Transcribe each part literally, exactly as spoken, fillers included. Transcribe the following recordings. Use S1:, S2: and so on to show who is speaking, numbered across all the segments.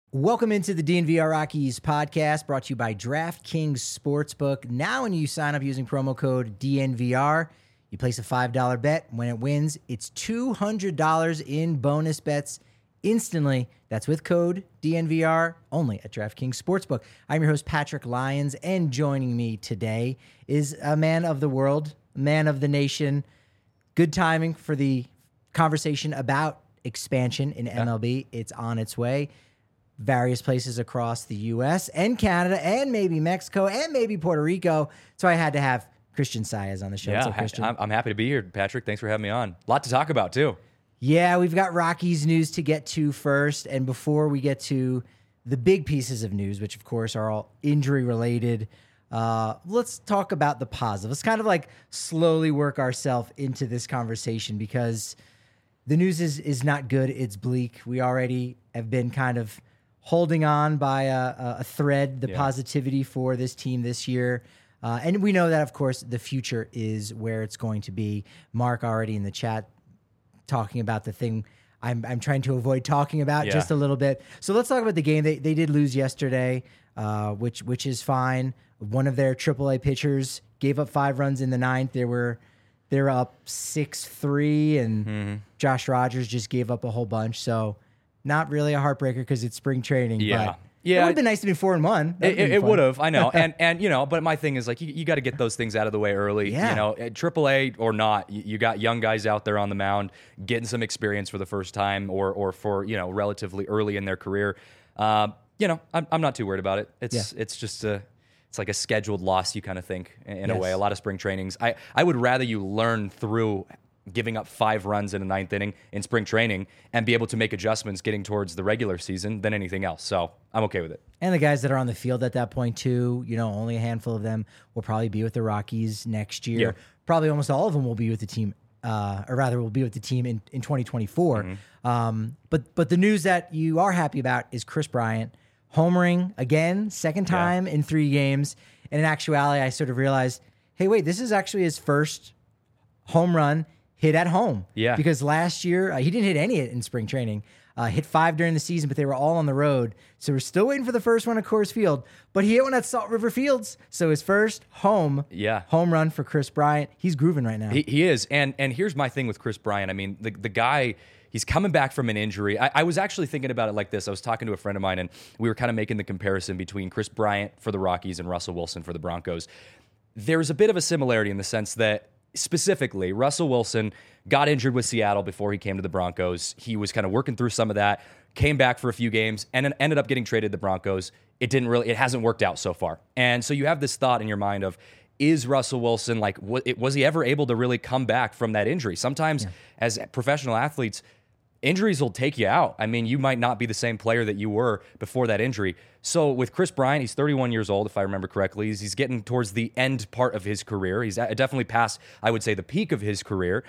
S1: Welcome into the D N V R Rockies podcast, brought to you by DraftKings Sportsbook. Now when you sign up using promo code D N V R, you place a five dollar bet. When it wins, it's two hundred dollars in bonus bets instantly. That's with code D N V R, only at DraftKings Sportsbook. I'm your host, Patrick Lyons, and joining me today is a man of the world, man of the nation. Good timing for the conversation about expansion in M L B. It's on its way. Various places across the U S and Canada and maybe Mexico and maybe Puerto Rico. So I had to have Christian Saez on the show.
S2: Yeah,
S1: so Christian.
S2: I'm, I'm happy to be here, Patrick. Thanks for having me on. A lot to talk about, too.
S1: Yeah, we've got Rockies news to get to first. And before we get to the big pieces of news, which, of course, are all injury-related, uh, let's talk about the positive. Let's kind of like slowly work ourselves into this conversation because the news is, is not good. It's bleak. We already have been kind of holding on by a, a thread, the yeah. positivity for this team this year. Uh, and we know that, of course, the future is where it's going to be. Mark already in the chat talking about the thing I'm, I'm trying to avoid talking about yeah. just a little bit. So let's talk about the game. They they did lose yesterday, uh, which which is fine. One of their triple A pitchers gave up five runs in the ninth. They were they were up six three, and mm-hmm. Josh Rogers just gave up a whole bunch. So not really a heartbreaker because it's spring training.
S2: Yeah.
S1: But
S2: yeah.
S1: It would have been nice to be four and one.
S2: It, it would have, I know. and, and, you know, but my thing is like, you, you got to get those things out of the way early.
S1: Yeah.
S2: You know, triple A or not, you, you got young guys out there on the mound getting some experience for the first time or, or for, you know, relatively early in their career. Uh, you know, I'm, I'm not too worried about it. It's, yeah. it's just a, it's like a scheduled loss, you kind of think, in yes. a way. A lot of spring trainings. I, I would rather you learn through giving up five runs in a ninth inning in spring training and be able to make adjustments getting towards the regular season than anything else. So I'm okay with it.
S1: And the guys that are on the field at that point too, you know, only a handful of them will probably be with the Rockies next year. Yeah. Probably almost all of them will be with the team, uh, or rather will be with the team in, in twenty twenty-four. Mm-hmm. Um, but, but the news that you are happy about is Kris Bryant homering again, second time yeah. in three games. And in actuality, I sort of realized, hey, wait, this is actually his first home run hit at home.
S2: Yeah.
S1: Because last year, uh, he didn't hit any in spring training. Uh, hit five during the season, but they were all on the road. So we're still waiting for the first one at Coors Field. But he hit one at Salt River Fields. So his first home
S2: yeah.
S1: home run for Kris Bryant. He's grooving right now.
S2: He, he is. And and here's my thing with Kris Bryant. I mean, the, the guy, he's coming back from an injury. I, I was actually thinking about it like this. I was talking to a friend of mine, and we were kind of making the comparison between Kris Bryant for the Rockies and Russell Wilson for the Broncos. There's a bit of a similarity in the sense that specifically, Russell Wilson got injured with Seattle before he came to the Broncos. He was kind of working through some of that, came back for a few games, and then ended up getting traded to the Broncos. It didn't really, it hasn't worked out so far. And so you have this thought in your mind of, is Russell Wilson, like, was he ever able to really come back from that injury? Sometimes yeah. as professional athletes, injuries will take you out. I mean, you might not be the same player that you were before that injury. So with Kris Bryant, he's thirty-one years old, if I remember correctly. He's, he's getting towards the end part of his career. He's definitely past, I would say, the peak of his career.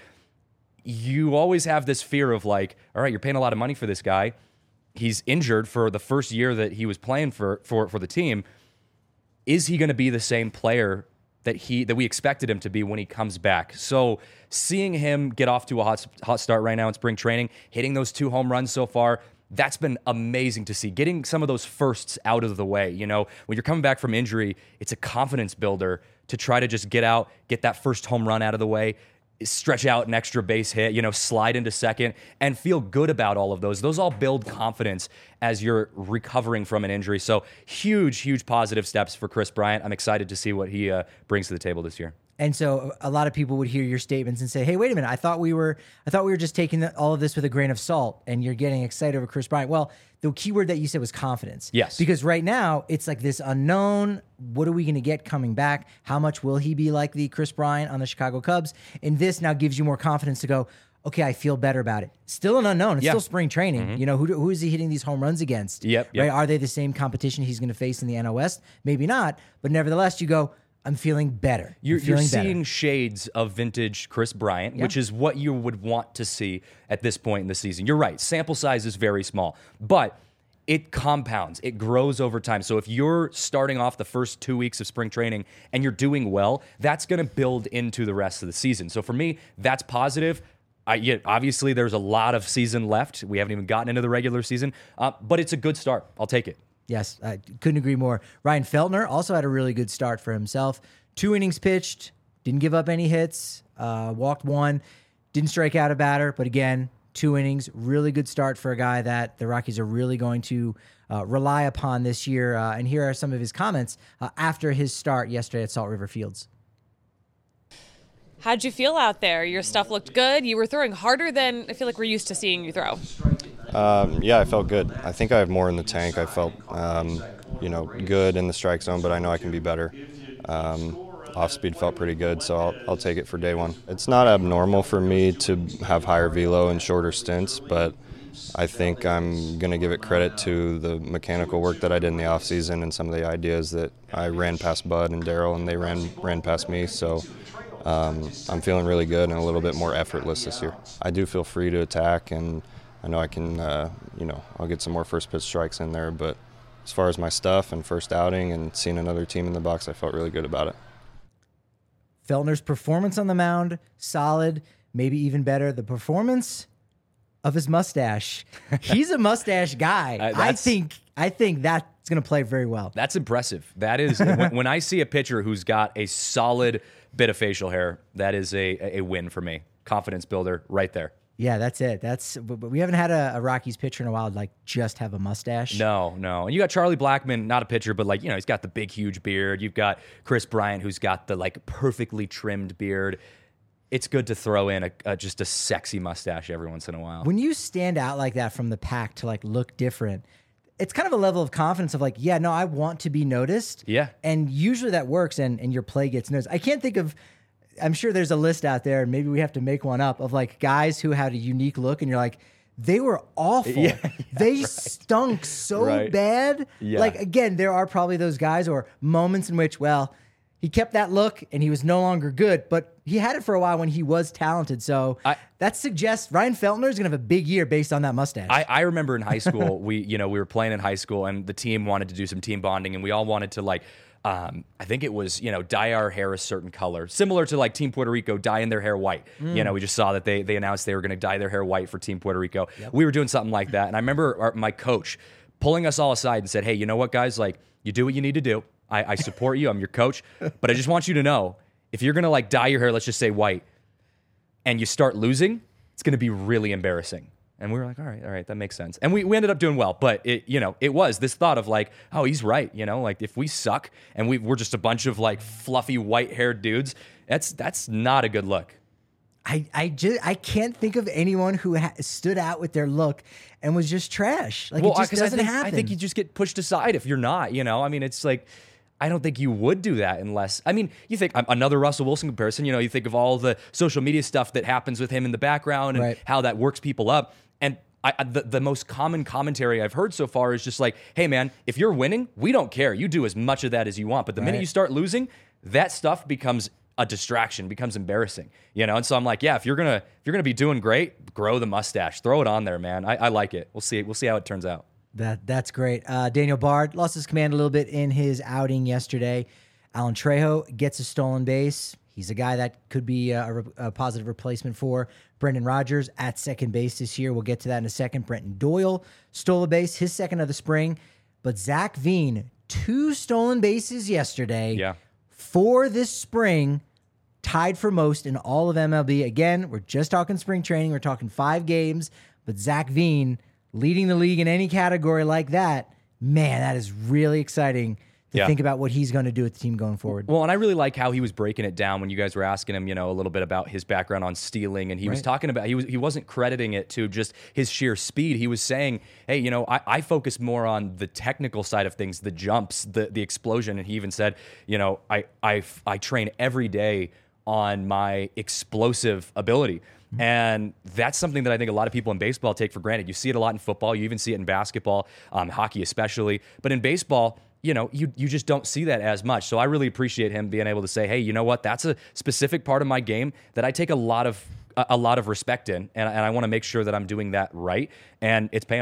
S2: You always have this fear of like, all right, you're paying a lot of money for this guy. He's injured for the first year that he was playing for for, for the team. Is he going to be the same player that he that we expected him to be when he comes back? So seeing him get off to a hot, hot start right now in spring training, hitting those two home runs so far, that's been amazing to see. Getting some of those firsts out of the way. You know, when you're coming back from injury, it's a confidence builder to try to just get out, get that first home run out of the way, stretch out an extra base hit, you know, slide into second, and feel good about all of those. Those all build confidence as you're recovering from an injury. So huge, huge positive steps for Kris Bryant. I'm excited to see what he uh, brings to the table this year.
S1: And so a lot of people would hear your statements and say, hey, wait a minute, I thought we were I thought we were just taking the, all of this with a grain of salt, and you're getting excited over Kris Bryant. Well, the key word that you said was confidence.
S2: Yes.
S1: Because right now, it's like this unknown, what are we going to get coming back? How much will he be like the Kris Bryant on the Chicago Cubs? And this now gives you more confidence to go, okay, I feel better about it. Still an unknown. It's
S2: yeah.
S1: still spring training. Mm-hmm. You know, who who is he hitting these home runs against?
S2: Yep,
S1: right?
S2: yep.
S1: Are they the same competition he's going to face in the N L West? Maybe not. But nevertheless, you go, I'm feeling better.
S2: You're,
S1: I'm feeling
S2: you're seeing
S1: better.
S2: shades of vintage Kris Bryant,
S1: yeah.
S2: which is what you would want to see at this point in the season. You're right. Sample size is very small, but it compounds. It grows over time. So if you're starting off the first two weeks of spring training and you're doing well, that's going to build into the rest of the season. So for me, that's positive. I, yeah, obviously, there's a lot of season left. We haven't even gotten into the regular season, uh, but it's a good start. I'll take it.
S1: Yes, I couldn't agree more. Ryan Feltner also had a really good start for himself. Two innings pitched, didn't give up any hits, uh, walked one, didn't strike out a batter, but again, two innings, really good start for a guy that the Rockies are really going to uh, rely upon this year. Uh, and here are some of his comments uh, after his start yesterday at Salt River Fields.
S3: How'd you feel out there? Your stuff looked good. You were throwing harder than I feel like we're used to seeing you throw.
S4: Um, yeah, I felt good. I think I have more in the tank. I felt, um, you know, good in the strike zone, but I know I can be better. Um, off speed felt pretty good, so I'll, I'll take it for day one. It's not abnormal for me to have higher velo and shorter stints, but I think I'm going to give it credit to the mechanical work that I did in the off season and some of the ideas that I ran past Bud and Daryl, and they ran ran past me. So. Um, I'm feeling really good and a little bit more effortless this year. I do feel free to attack, and I know I can, uh, you know, I'll get some more first pitch strikes in there. But as far as my stuff and first outing and seeing another team in the box, I felt really good about it.
S1: Feltner's performance on the mound, solid, maybe even better. The performance of his mustache. He's a mustache guy.
S2: Uh,
S1: I think I think that's going to play very well.
S2: That's impressive. That is, when, when I see a pitcher who's got a solid bit of facial hair, that is a, a win for me. Confidence builder right there.
S1: Yeah, that's it. That's but we haven't had a, a Rockies pitcher in a while like just have a mustache.
S2: No, no. And you got Charlie Blackmon, not a pitcher, but like, you know, he's got the big, huge beard. You've got Chris Bryant, who's got the like perfectly trimmed beard. It's good to throw in a, a just a sexy mustache every once in a while.
S1: When you stand out like that from the pack to like look different, it's kind of a level of confidence of like, yeah, no, I want to be noticed.
S2: Yeah.
S1: And usually that works and, and your play gets noticed. I can't think of, I'm sure there's a list out there and maybe we have to make one up of like guys who had a unique look and you're like, they were awful.
S2: Yeah, yeah,
S1: they
S2: right.
S1: stunk so
S2: Right.
S1: bad.
S2: Yeah.
S1: Like, again, there are probably those guys or moments in which, well, he kept that look and he was no longer good, but he had it for a while when he was talented. So
S2: I,
S1: that suggests Ryan Feltner is going to have a big year based on that mustache.
S2: I, I remember in high school, we, you know, we were playing in high school and the team wanted to do some team bonding and we all wanted to like, um, I think it was, you know, dye our hair a certain color, similar to like Team Puerto Rico dyeing their hair white. Mm. You know, we just saw that they, they announced they were going to dye their hair white for Team Puerto Rico. Yep. We were doing something like that. And I remember our, my coach pulling us all aside and said, hey, you know what, guys, like you do what you need to do. I, I support you. I'm your coach. But I just want you to know, if you're going to like dye your hair, let's just say white, and you start losing, it's going to be really embarrassing. And we were like, all right, all right, that makes sense. And we, we ended up doing well. But, it, you know, it was this thought of like, oh, he's right. You know, like if we suck and we, we're just a bunch of like fluffy white-haired dudes, that's that's not a good look.
S1: I, I just I can't think of anyone who ha- stood out with their look and was just trash. Like
S2: Well,
S1: it just
S2: 'cause
S1: doesn't
S2: I think,
S1: happen.
S2: I think you just get pushed aside if you're not, you know? I mean, it's like, I don't think you would do that unless, I mean, you think um, another Russell Wilson comparison, you know, you think of all the social media stuff that happens with him in the background and
S1: Right.
S2: how that works people up. And I, I, the, the most common commentary I've heard so far is just like, hey, man, if you're winning, we don't care. You do as much of that as you want. But the minute
S1: Right.
S2: you start losing, that stuff becomes a distraction, becomes embarrassing, you know? And so I'm like, yeah, if you're gonna if you're gonna be doing great, grow the mustache, throw it on there, man. I, I like it. We'll see. We'll see how it turns out.
S1: That that's great. Uh, Daniel Bard lost his command a little bit in his outing yesterday. Alan Trejo gets a stolen base. He's a guy that could be a, a, a positive replacement for Brendan Rodgers at second base this year. We'll get to that in a second. Brenton Doyle stole a base, his second of the spring. But Zach Veen, two stolen bases yesterday.
S2: Yeah.
S1: For this spring, tied for most in all of M L B. Again, we're just talking spring training. We're talking five games. But Zach Veen leading the league in any category like that, man, that is really exciting to
S2: Yeah.
S1: think about what he's going to do with the team going forward.
S2: Well, and I really like how he was breaking it down when you guys were asking him, you know, a little bit about his background on stealing, and he was
S1: Right.
S2: talking about he was he wasn't crediting it to just his sheer speed. He was saying, hey, you know, I, I focus more on the technical side of things, the jumps, the the explosion, and he even said, you know, I I I train every day on my explosive ability. And that's something that I think a lot of people in baseball take for granted. You see it a lot in football. You even see it in basketball, um, hockey especially. But in baseball, you know, you you just don't see that as much. So I really appreciate him being able to say, hey, you know what? That's a specific part of my game that I take a lot of a, a lot of respect in, and, and I want to make sure that I'm doing that right. And it's paying off.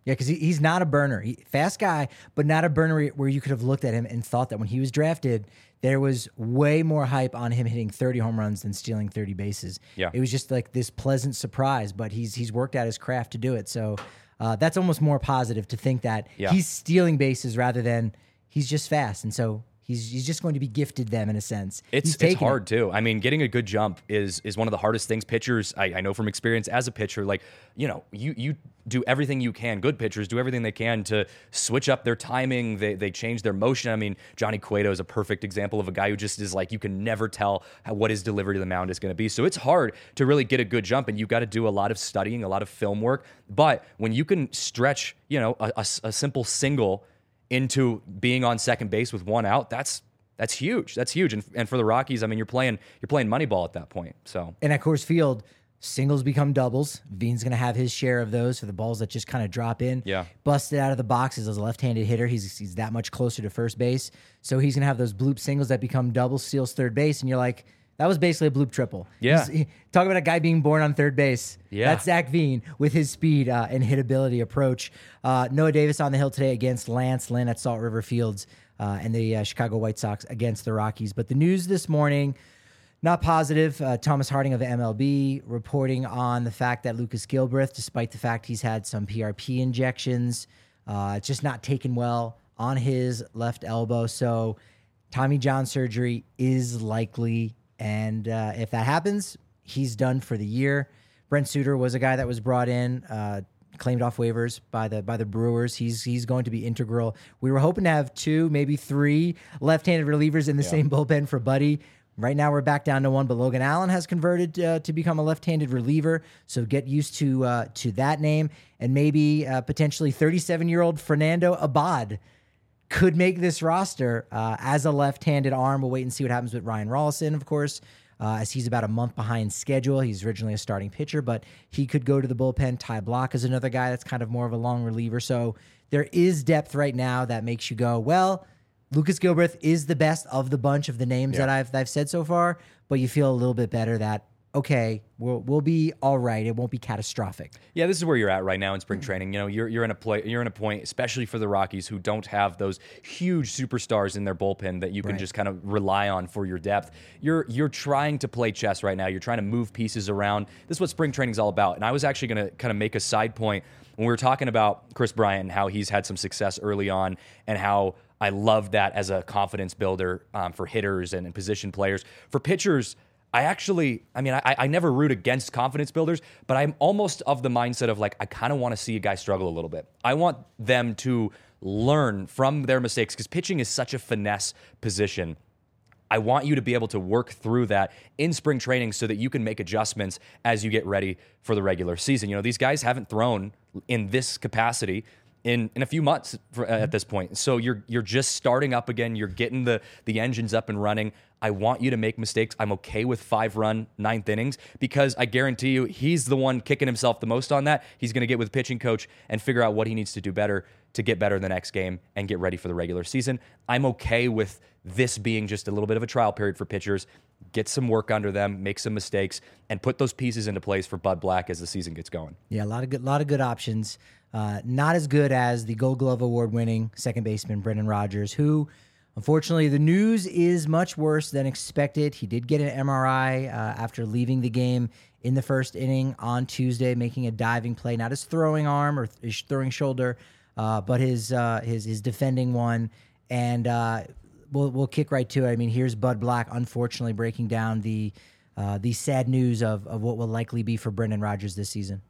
S1: Yeah, because he, he's not a burner. He, fast guy, but not a burner where you could have looked at him and thought that when he was drafted, there was way more hype on him hitting thirty home runs than stealing thirty bases.
S2: Yeah.
S1: It was just like this pleasant surprise, but he's he's worked out his craft to do it. So uh, that's almost more positive to think that
S2: Yeah.
S1: he's stealing bases rather than he's just fast. And so he's he's just going to be gifted them in a sense.
S2: It's
S1: He's
S2: it's
S1: taking
S2: hard
S1: it.
S2: too. I mean, getting a good jump is is one of the hardest things. Pitchers, I, I know from experience as a pitcher, like you know, you you do everything you can. Good pitchers do everything they can to switch up their timing. They they change their motion. I mean, Johnny Cueto is a perfect example of a guy who just is like you can never tell how, what his delivery to the mound is going to be. So it's hard to really get a good jump, and you got to do a lot of studying, a lot of film work. But when you can stretch, you know, a, a, a simple single into being on second base with one out, that's That's huge. That's huge. And, and for the Rockies, I mean, you're playing you're playing Moneyball at that point. So
S1: And at Coors Field, singles become doubles. Veen's going to have his share of those for the balls that just kind of drop in.
S2: Yeah.
S1: Busted out of the boxes as a left-handed hitter. He's he's that much closer to first base. So he's going to have those bloop singles that become doubles, steals third base. And you're like, that was basically a bloop triple.
S2: Yeah.
S1: He's- he- talk about a guy being born on third base.
S2: Yeah.
S1: That's Zach Veen with his speed uh, and hitability approach. Uh, Noah Davis on the hill today against Lance Lynn at Salt River Fields uh, and the uh, Chicago White Sox against the Rockies. But the news this morning, not positive. Uh, Thomas Harding of the M L B reporting on the fact that Lucas Gilbreth, despite the fact he's had some P R P injections, uh, it's just not taken well on his left elbow. So Tommy John surgery is likely. And uh, if that happens, he's done for the year. Brent Suter was a guy that was brought in, uh, claimed off waivers by the by the Brewers. He's he's going to be integral. We were hoping to have two, maybe three left-handed relievers in the
S2: Yeah.
S1: same bullpen for Buddy. Right now we're back down to one, but Logan Allen has converted uh, to become a left-handed reliever. So get used to uh, to that name, and maybe uh, potentially thirty-seven-year-old Fernando Abad could make this roster uh, as a left-handed arm. We'll wait and see what happens with Ryan Rollison, of course, uh, as he's about a month behind schedule. He's originally a starting pitcher, but he could go to the bullpen. Ty Block is another guy that's kind of more of a long reliever. So there is depth right now that makes you go, well, Lucas Gilbreth is the best of the bunch of the names
S2: Yeah.
S1: that I've that I've said so far, but you feel a little bit better that, okay, we'll we'll be all right. It won't be catastrophic.
S2: yeah, this is where you're at right now in spring training. You know, you're you're in a play, you're in a point, especially for the Rockies, who don't have those huge superstars in their bullpen that you can
S1: Right.
S2: just kind of rely on for your depth. You're you're trying to play chess right now. You're trying to move pieces around. This is what spring training is all about. And I was actually going to kind of make a side point when we were talking about Chris Bryant and how he's had some success early on, and how I love that as a confidence builder um, for hitters and, and position players. For pitchers, I actually, I mean, I, I never root against confidence builders, but I'm almost of the mindset of like, I kind of want to see a guy struggle a little bit. I want them to learn from their mistakes, because pitching is such a finesse position. I want you to be able to work through that in spring training so that you can make adjustments as you get ready for the regular season. You know, these guys haven't thrown in this capacity in, in a few months for, uh, at this point. So you're you're just starting up again. You're getting the the engines up and running. I want you to make mistakes. I'm okay with five-run ninth innings, because I guarantee you he's the one kicking himself the most on that. He's going to get with pitching coach and figure out what he needs to do better to get better in the next game and get ready for the regular season. I'm okay with this being just a little bit of a trial period for pitchers. Get some work under them, make some mistakes, and put those pieces into place for Bud Black as the season gets going.
S1: Yeah, a lot of good, lot of good options. Uh, not as good as the Gold Glove award-winning second baseman Brendan Rodgers, who, unfortunately, the news is much worse than expected. He did get an M R I uh, after leaving the game in the first inning on Tuesday, making a diving play, not his throwing arm or his throwing shoulder, uh, but his uh, his his defending one. And uh, we'll we'll kick right to it. I mean, here's Bud Black, unfortunately, breaking down the uh, the sad news of of what will likely be for Brendan Rodgers this season.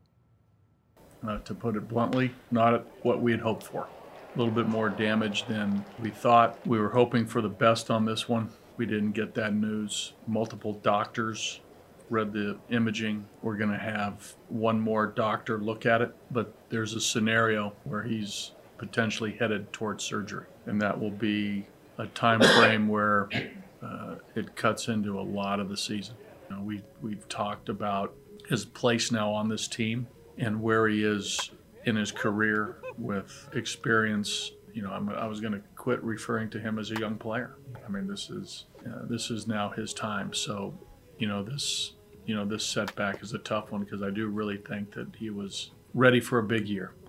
S5: Uh, to put it bluntly, not what we had hoped for. A little bit more damage than we thought. We were hoping for the best on this one. We didn't get that news. Multiple doctors read the imaging. We're going to have one more doctor look at it, but there's a scenario where he's potentially headed towards surgery, and that will be a time frame where uh, it cuts into a lot of the season. You know, we, we've talked about his place now on this team and where he is in his career with experience. You know, I'm, I was going to quit referring to him as a young player. I mean, this is uh, this is now his time. So, you know, this you know this setback is a tough one, because I do really think that he was ready for a big year.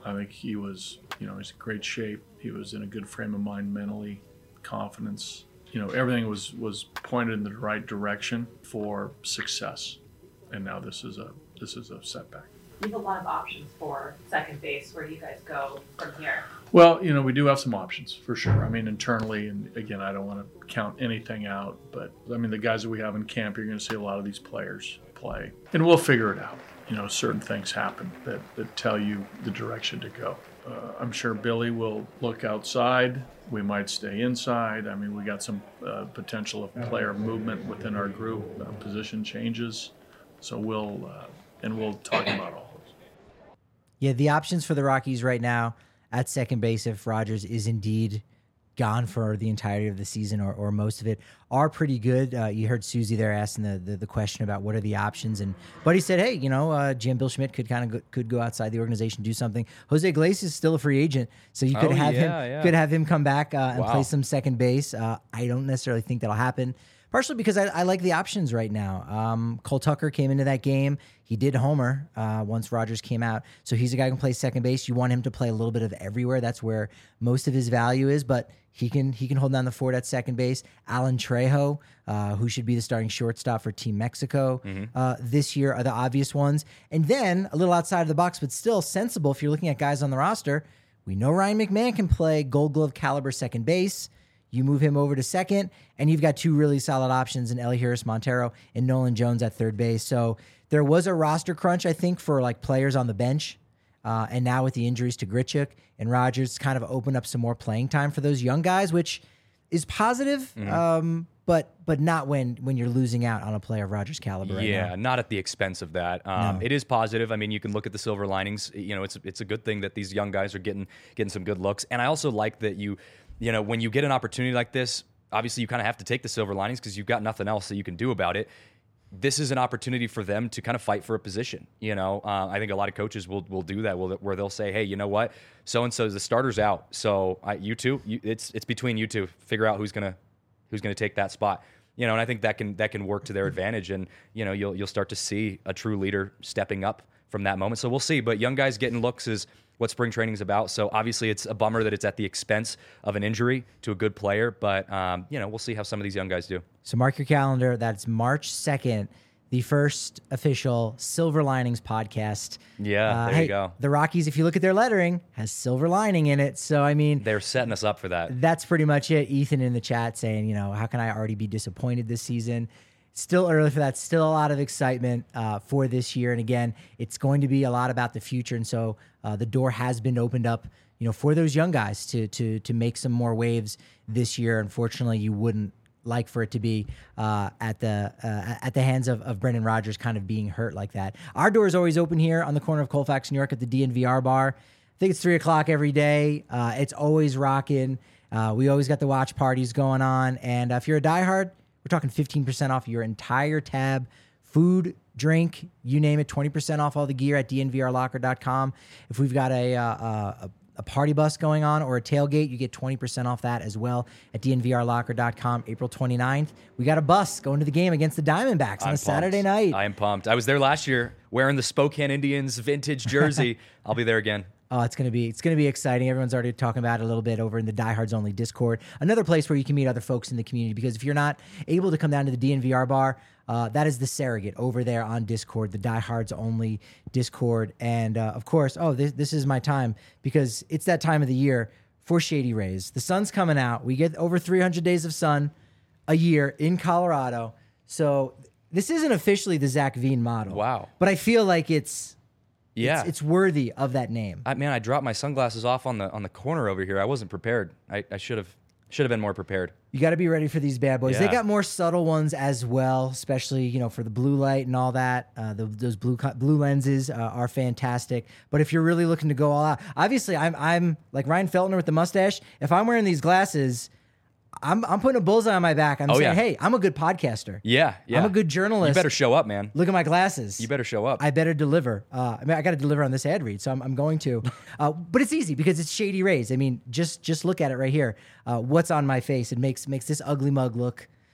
S5: I think he was, you know, he's in great shape. He was in a good frame of mind mentally, confidence. You know, everything was, was pointed in the right direction for success. And now this is a this is a setback.
S6: You have a lot of options for second base. Where do you guys go from here?
S5: Well, you know, we do have some options for sure. I mean, internally, and again, I don't want to count anything out, but I mean, the guys that we have in camp, you're going to see a lot of these players play, and we'll figure it out. You know, certain things happen that, that tell you the direction to go. Uh, I'm sure Billy will look outside. We might stay inside. I mean, we got some uh, potential of player movement within our group, uh, position changes. So we'll, uh, and we'll talk about all those.
S1: Yeah, the options for the Rockies right now at second base, if Rogers is indeed gone for the entirety of the season or, or most of it, are pretty good. Uh, you heard Susie there asking the, the the question about what are the options, and Buddy said, hey, you know, uh, Jim Bill Schmidt could kind of go, could go outside the organization, do something. Jose Iglesias is still a free agent, so you could
S2: Oh,
S1: have
S2: yeah,
S1: him
S2: yeah.
S1: could have him come back uh, and
S2: Wow.
S1: play some second base. Uh, I don't necessarily think that'll happen. Partially because I, I like the options right now. Um, Cole Tucker came into that game. He did homer uh, once Rogers came out. So he's a guy who can play second base. You want him to play a little bit of everywhere. That's where most of his value is. But he can he can hold down the fort at second base. Alan Trejo, uh, who should be the starting shortstop for Team Mexico uh, this year, are the obvious ones. And then a little outside of the box, but still sensible if you're looking at guys on the roster. We know Ryan McMahon can play Gold Glove caliber second base. You move him over to second, and you've got two really solid options in Elihuris Montero and Nolan Jones at third base. So there was a roster crunch, I think, for like players on the bench. Uh, and now with the injuries to Grichuk and Rogers, it's kind of opened up some more playing time for those young guys, which is positive,
S2: Mm-hmm.
S1: um, but but not when when you're losing out on a player of Rogers' caliber right
S2: Yeah,
S1: now.
S2: not at the expense of that. Um,
S1: No.
S2: It is positive. I mean, you can look at the silver linings. You know, it's it's a good thing that these young guys are getting getting some good looks. And I also like that you, you know, when you get an opportunity like this, obviously you kind of have to take the silver linings because you've got nothing else that you can do about it. This is an opportunity for them to kind of fight for a position. You know, uh, I think a lot of coaches will will do that, will, where they'll say, "Hey, you know what? So and so the starter's out, so I, you two, you, it's it's between you two. Figure out who's gonna who's gonna take that spot." You know, and I think that can that can work to their advantage, and you know, you'll you'll start to see a true leader stepping up from that moment. So we'll see. But young guys getting looks is what spring training is about. So obviously, it's a bummer that it's at the expense of an injury to a good player. But um, you know, we'll see how some of these young guys do.
S1: So mark your calendar. That's March second, the first official Silver Linings podcast.
S2: Yeah, there you
S1: hey,
S2: go.
S1: The Rockies, if you look at their lettering, has silver lining in it. So, I mean,
S2: They're setting us up for that.
S1: that's pretty much it. Ethan in the chat saying, you know, how can I already be disappointed this season? Still early for that. Still a lot of excitement uh, for this year. And again, it's going to be a lot about the future. And so uh, the door has been opened up, you know, for those young guys to to to make some more waves this year. Unfortunately, you wouldn't like for it to be uh, at the uh, at the hands of, of Brendan Rodgers kind of being hurt like that. Our door is always open here on the corner of Colfax, New York at the D N V R bar. I think it's three o'clock every day. Uh, it's always rocking. Uh, we always got the watch parties going on. And uh, if you're a diehard, we're talking fifteen percent off your entire tab. Food, drink, you name it, twenty percent off all the gear at D N V R locker dot com. If we've got a, uh, a, a party bus going on or a tailgate, you get twenty percent off that as well at D N V R locker dot com. April twenty-ninth, we got a bus going to the game against the Diamondbacks on
S2: I'm
S1: a Saturday
S2: pumped.
S1: night.
S2: I am pumped. I was there last year wearing the Spokane Indians vintage jersey. I'll be there again.
S1: Oh, it's gonna be it's gonna be exciting. Everyone's already talking about it a little bit over in the Diehards Only Discord. Another place where you can meet other folks in the community, because if you're not able to come down to the D N V R bar, uh, that is the surrogate over there on Discord, the Diehards Only Discord. And uh, of course, oh, this this is my time, because it's that time of the year for Shady Rays. The sun's coming out. We get over three hundred days of sun a year in Colorado. So this isn't officially the Zach Veen model.
S2: Wow.
S1: But I feel like it's
S2: Yeah.
S1: it's, it's worthy of that name.
S2: I, man, I dropped my sunglasses off on the on the corner over here. I wasn't prepared. I, I should have should have been more prepared.
S1: You got to be ready for these bad boys. They
S2: Yeah.
S1: got more subtle ones as well, especially, you know, for the blue light and all that. Uh, the, those blue co- blue lenses uh, are fantastic. But if you're really looking to go all out, obviously, I'm I'm like Ryan Feltner with the mustache. If I'm wearing these glasses, I'm I'm putting a bullseye on my back. I'm
S2: Oh,
S1: saying,
S2: yeah.
S1: hey, I'm a good podcaster.
S2: Yeah, yeah.
S1: I'm a good journalist.
S2: You better show up, man.
S1: Look at my glasses.
S2: You better show up.
S1: I better deliver. Uh, I mean, I got to deliver on this ad read, so I'm, I'm going to. Uh, but it's easy because it's Shady Rays. I mean, just just look at it right here. Uh, what's on my face? It makes makes this ugly mug look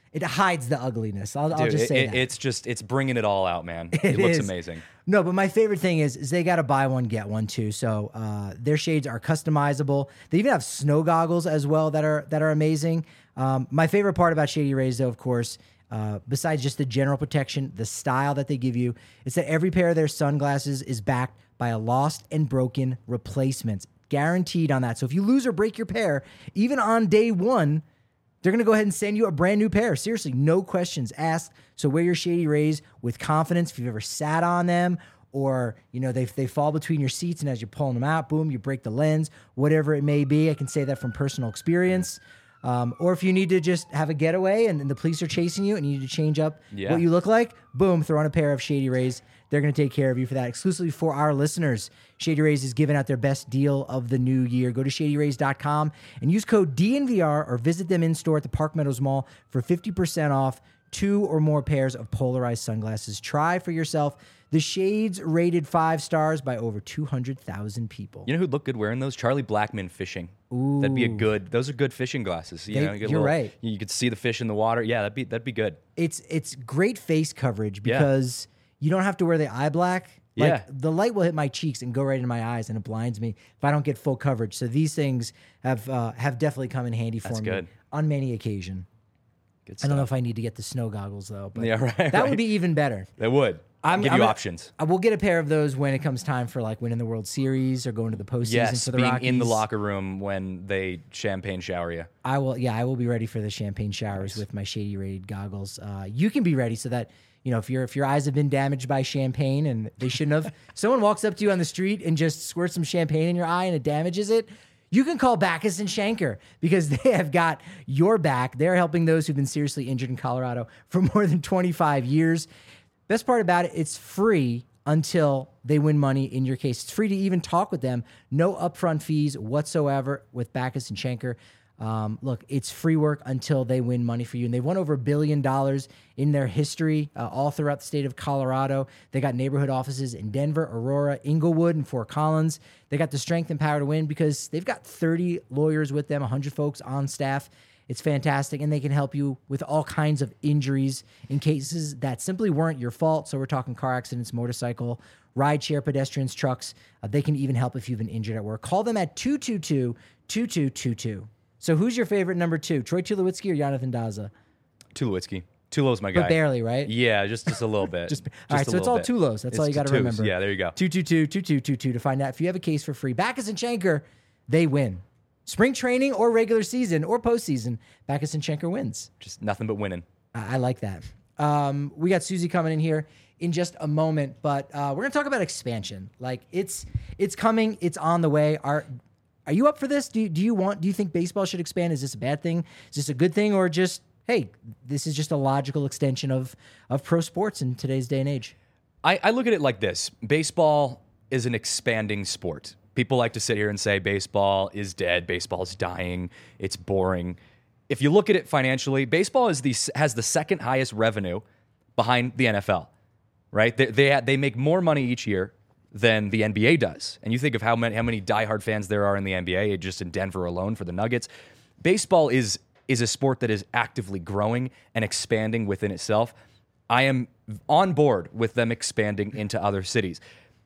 S1: it hides the ugliness. I'll, I'll
S2: Dude,
S1: just
S2: it-
S1: say
S2: it-
S1: that.
S2: it's just it's bringing it all out, man. It,
S1: It
S2: looks
S1: is.
S2: amazing.
S1: No, but my favorite thing is, is they got to buy one, get one too. So uh, their shades are customizable. They even have snow goggles as well that are that are amazing. Um, my favorite part about Shady Rays, though, of course, uh, besides just the general protection, the style that they give you, is that every pair of their sunglasses is backed by a lost and broken replacements, guaranteed on that. So if you lose or break your pair, even on day one, they're going to go ahead and send you a brand new pair. Seriously, no questions asked. So wear your Shady Rays with confidence. If you've ever sat on them or, you know, they, they fall between your seats and as you're pulling them out, boom, you break the lens, whatever it may be. I can say that from personal experience. Um, or if you need to just have a getaway and, and the police are chasing you and you need to change up
S2: Yeah.
S1: what you look like, boom, throw on a pair of Shady Rays. They're going to take care of you for that. Exclusively for our listeners, Shady Rays is giving out their best deal of the new year. Go to shady rays dot com and use code D N V R or visit them in store at the Park Meadows Mall for fifty percent off two or more pairs of polarized sunglasses. Try for yourself. The shades rated five stars by over two hundred thousand people.
S2: You know who'd look good wearing those? Charlie Blackman fishing. That'd be a good. Those are good fishing glasses. You
S1: They-
S2: know, you get a
S1: you're
S2: little-
S1: right.
S2: You could see the fish in the water. Yeah, that'd be that'd be good.
S1: It's it's great face coverage
S2: Yeah.
S1: because you don't have to wear the eye black. Like
S2: Yeah.
S1: the light will hit my cheeks and go right into my eyes and it blinds me if I don't get full coverage. So these things have uh, have definitely come in handy for
S2: That's
S1: me
S2: good.
S1: on many occasion.
S2: Good
S1: I
S2: stuff.
S1: don't know if I need to get the snow goggles though, but
S2: Yeah, right,
S1: that
S2: right.
S1: would be even better.
S2: That would.
S1: I'm,
S2: Give
S1: I'm
S2: you
S1: gonna-
S2: options.
S1: I will get a pair of those when it comes time for like winning the World Series or going to the postseason
S2: Yes,
S1: for the
S2: being
S1: Rockies.
S2: in the locker room when they champagne shower you.
S1: I will. Yeah, I will be ready for the champagne showers with my Shady Raid goggles. Uh, you can be ready so that you know if your if your eyes have been damaged by champagne and they shouldn't have. Someone walks up to you on the street and just squirts some champagne in your eye and it damages it. You can call Backus and Schenker because they have got your back. They're helping those who've been seriously injured in Colorado for more than twenty-five years. Best part about it, it's free until they win money in your case. It's free to even talk with them. No upfront fees whatsoever with Backus and Schenker. Um, look, it's free work until they win money for you. And they've won over a billion dollars in their history uh, all throughout the state of Colorado. They got neighborhood offices in Denver, Aurora, Inglewood, and Fort Collins. They got the strength and power to win because they've got thirty lawyers with them, one hundred folks on staff. It's fantastic, and they can help you with all kinds of injuries in cases that simply weren't your fault. So we're talking car accidents, motorcycle, rideshare, pedestrians, trucks. Uh, they can even help if you've been injured at work. Call them at two two two, two two two two. So who's your favorite number two, Troy Tulowitzki or Jonathan Daza?
S2: Tulowitzki. Tulo's my guy.
S1: But barely, right?
S2: Yeah, just just a little bit.
S1: Just,
S2: just
S1: all right,
S2: a
S1: so it's
S2: little
S1: all
S2: bit.
S1: Tulos. That's all you
S2: It's
S1: got to
S2: twos.
S1: remember.
S2: Yeah, there you go.
S1: two two two, two two two two to find out if you have a case for free. Backus and Schenker, they win. Spring training or regular season or postseason, Backus and Schenker wins.
S2: Just nothing but winning.
S1: I I like that. Um, we got Susie coming in here in just a moment, but uh, we're gonna talk about expansion. Like it's it's coming, it's on the way. Are are you up for this? Do you, do you want? Do you think baseball should expand? Is this a bad thing? Is this a good thing, or just hey, this is just a logical extension of of pro sports in today's day and age?
S2: I, I look at it like this. Baseball is an expanding sport. People like to sit here and say baseball is dead, baseball is dying, it's boring. If you look at it financially, baseball is the has the second highest revenue behind the N F L, right? They they, they make more money each year than the N B A does. And you think of how many how many diehard fans there are in the N B A, just in Denver alone for the Nuggets. Baseball is is a sport that is actively growing and expanding within itself. I am on board with them expanding into other cities.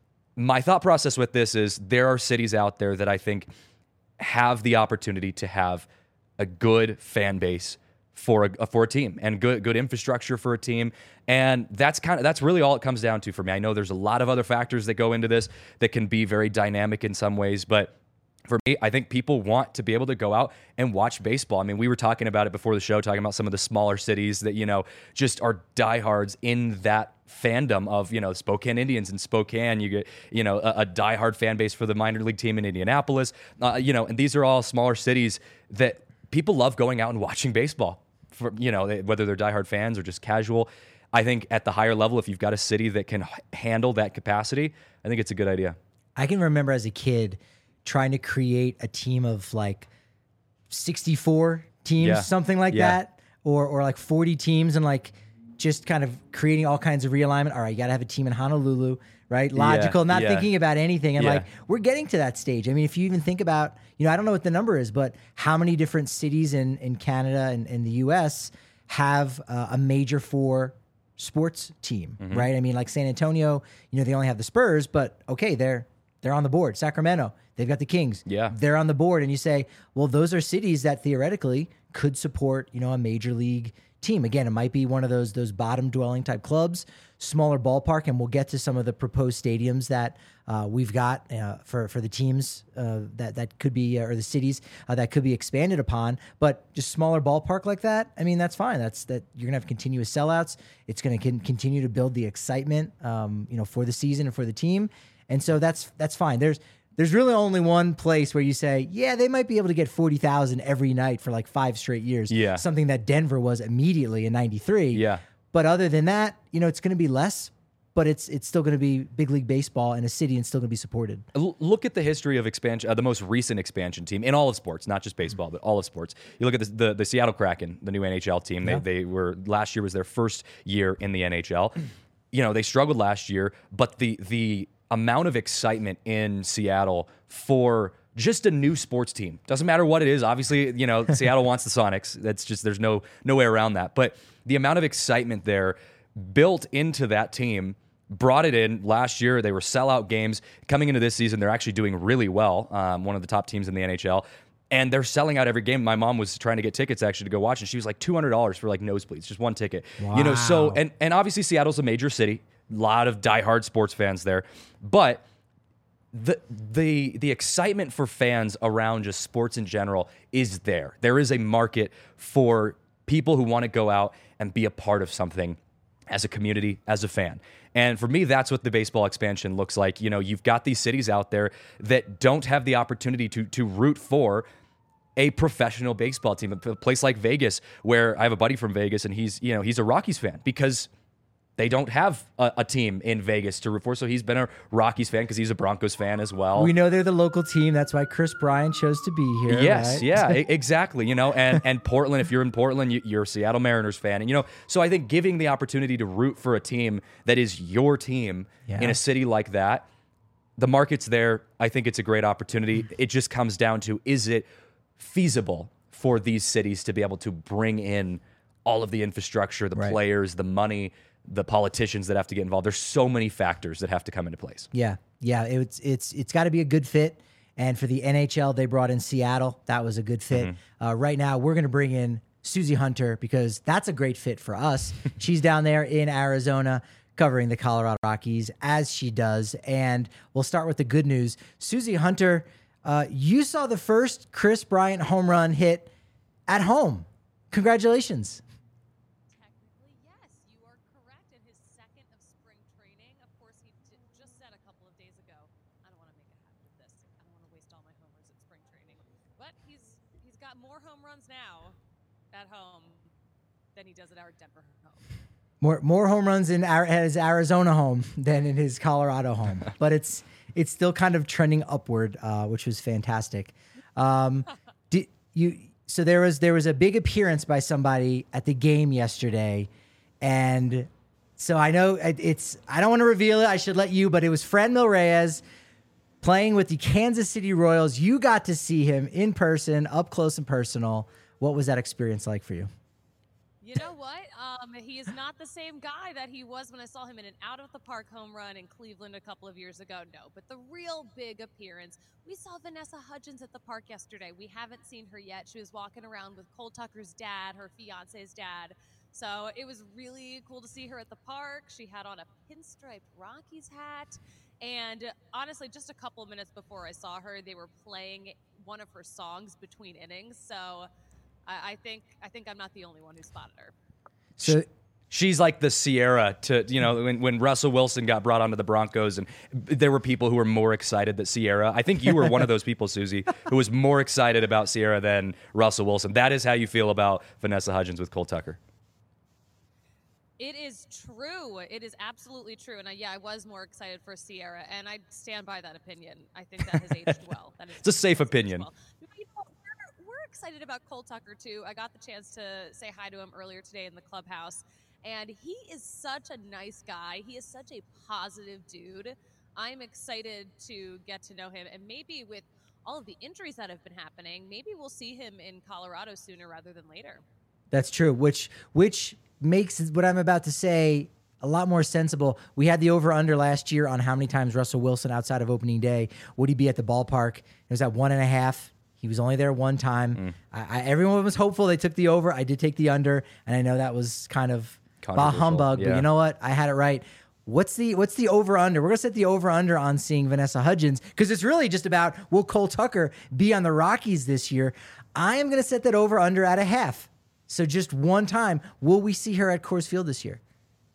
S2: My thought process with this is there are cities out there that I think have the opportunity to have a good fan base for a for a team and good good infrastructure for a team, and that's kind of that's really all it comes down to for me. I know there's a lot of other factors that go into this that can be very dynamic in some ways, but for me, I think people want to be able to go out and watch baseball. I mean, we were talking about it before the show, talking about some of the smaller cities that, you know, just are diehards in that fandom of, you know, Spokane Indians in Spokane. You get, you know, a, a diehard fan base for the minor league team in Indianapolis. Uh, you know, and these are all smaller cities that people love going out and watching baseball for, you know, they, whether they're diehard fans or just casual. I think at the higher level, if you've got a city that can h- handle that capacity, I think it's a good idea.
S1: I can remember as a kid trying to create a team of like sixty-four teams,
S2: Yeah.
S1: something like
S2: Yeah.
S1: that, or or like forty teams, and like just kind of creating all kinds of realignment. All right, you got to have a team in Honolulu, right? Logical, not
S2: yeah.
S1: thinking about anything. And
S2: Yeah.
S1: like we're getting to that stage. I mean, if you even think about, you know, I don't know what the number is, but how many different cities in in Canada and in the U S have uh, a major four sports team,
S2: Mm-hmm.
S1: right? I mean, like San Antonio, you know, they only have the Spurs, but okay, they're they're on the board. Sacramento, they've got the Kings.
S2: Yeah.
S1: They're on the board. And you say, well, those are cities that theoretically could support, you know, a major league team. Again, it might be one of those those bottom dwelling type clubs, smaller ballpark, and we'll get to some of the proposed stadiums that uh, we've got uh, for for the teams uh, that that could be uh, or the cities uh, that could be expanded upon. But just smaller ballpark like that, I mean, that's fine. That's that you're gonna have continuous sellouts. It's gonna con- continue to build the excitement, um, you know, for the season and for the team, and so that's that's fine. There's There's really only one place where you say, yeah, they might be able to get forty thousand every night for like five straight years.
S2: Yeah.
S1: Something that Denver was immediately in ninety-three.
S2: Yeah.
S1: But other than that, you know, it's going to be less, but it's it's still going to be big league baseball in a city and still going to be supported.
S2: L- Look at the history of expansion, uh, the most recent expansion team in all of sports, not just baseball, but all of sports. You look at the the, the Seattle Kraken, the new N H L team. They
S1: Yeah.
S2: they were last year was their first year in the N H L. You know, they struggled last year, but the the amount of excitement in Seattle for just a new sports team, doesn't matter what it is. Obviously, you know, Seattle wants the Sonics. That's just, there's no no way around that. But the amount of excitement there built into that team, brought it in last year. They were sellout games. Coming into this season, they're actually doing really well. Um, one of the top teams in the N H L. And they're selling out every game. My mom was trying to get tickets actually to go watch, and she was like two hundred dollars for like nosebleeds, just one ticket. You know, so,
S1: Wow.
S2: and, and obviously Seattle's a major city. A lot of diehard sports fans there. But the the the excitement for fans around just sports in general is there. There is a market for people who want to go out and be a part of something as a community, as a fan. And for me, that's what the baseball expansion looks like. You know, you've got these cities out there that don't have the opportunity to to root for a professional baseball team. A place like Vegas, where I have a buddy from Vegas, and he's, you know, he's a Rockies fan because they don't have a, a team in Vegas to root for. So he's been a Rockies fan because he's a Broncos fan as well.
S1: We know they're the local team. That's why Chris Bryant chose to be here.
S2: Yes,
S1: right?
S2: yeah, e- exactly. You know, and and Portland, if you're in Portland, you, you're a Seattle Mariners fan, and you know, so I think giving the opportunity to root for a team that is your team
S1: Yeah.
S2: in a city like that, the market's there. I think it's a great opportunity. It just comes down to, is it feasible for these cities to be able to bring in all of the infrastructure, the
S1: Right.
S2: players, the money, the politicians that have to get involved? There's so many factors that have to come into place.
S1: Yeah, yeah. It's it's it's got to be a good fit. And for the N H L, they brought in Seattle. That was a good fit.
S2: Mm-hmm.
S1: Uh, right now, we're going to bring in Susie Hunter because that's a great fit for us. She's down there in Arizona covering the Colorado Rockies as she does. And we'll start with the good news. Susie Hunter, uh, you saw the first Chris Bryant home run hit at home. Congratulations.
S7: Technically, yes, you are correct. In his second of spring training, of course, he j- just said a couple of days ago, "I don't want to make a habit of this. I don't want to waste all my homers at spring training." But he's he's got more home runs now at home than he does at our Denver home.
S1: More more home runs in our, his Arizona home than in his Colorado home, but it's it's still kind of trending upward, uh, which was fantastic. Um, did you? So there was there was a big appearance by somebody at the game yesterday, and so I know it- it's I don't want to reveal it. I should let you, but it was Franmil Reyes playing with the Kansas City Royals. You got to see him in person, up close and personal. What was that experience like for you?
S7: You know what? Um, he is not the same guy that he was when I saw him in an out-of-the-park home run in Cleveland a couple of years ago. No, but the real big appearance, we saw Vanessa Hudgens at the park yesterday. We haven't seen her yet. She was walking around with Cole Tucker's dad, her fiance's dad. So it was really cool to see her at the park. She had on a pinstripe Rockies hat. And honestly, just a couple of minutes before I saw her, they were playing one of her songs between innings. So I, I think I think I'm not the only one who spotted her.
S1: So
S2: She's like the Sierra to, you know, when, when Russell Wilson got brought onto the Broncos, and there were people who were more excited that Sierra, I think you were one of those people, Susie, who was more excited about Sierra than Russell Wilson. That is how you feel about Vanessa Hudgens with Cole Tucker.
S7: It is true. It is absolutely true. And I, yeah, I was more excited for Sierra, and I stand by that opinion. I think that has aged well. That is,
S2: It's a safe
S7: has aged
S2: opinion.
S7: well. You know, we're, we're excited about Cole Tucker, too. I got the chance to say hi to him earlier today in the clubhouse, and he is such a nice guy. He is such a positive dude. I'm excited to get to know him, and maybe with all of the injuries that have been happening, maybe we'll see him in Colorado sooner rather than later.
S1: That's true, which which makes what I'm about to say a lot more sensible. We had the over-under last year on how many times Russell Wilson outside of opening day would he be at the ballpark. It was at one and a half. He was only there one time. Mm. I, I, everyone was hopeful. They took the over. I did take the under, and I know that was kind of bah humbug, yeah. But you know what? I had it right. What's the what's the over-under? We're going to set the over-under on seeing Vanessa Hudgens because it's really just about will Cole Tucker be on the Rockies this year? I am going to set that over-under at a half. So just one time, will we see her at Coors Field this year?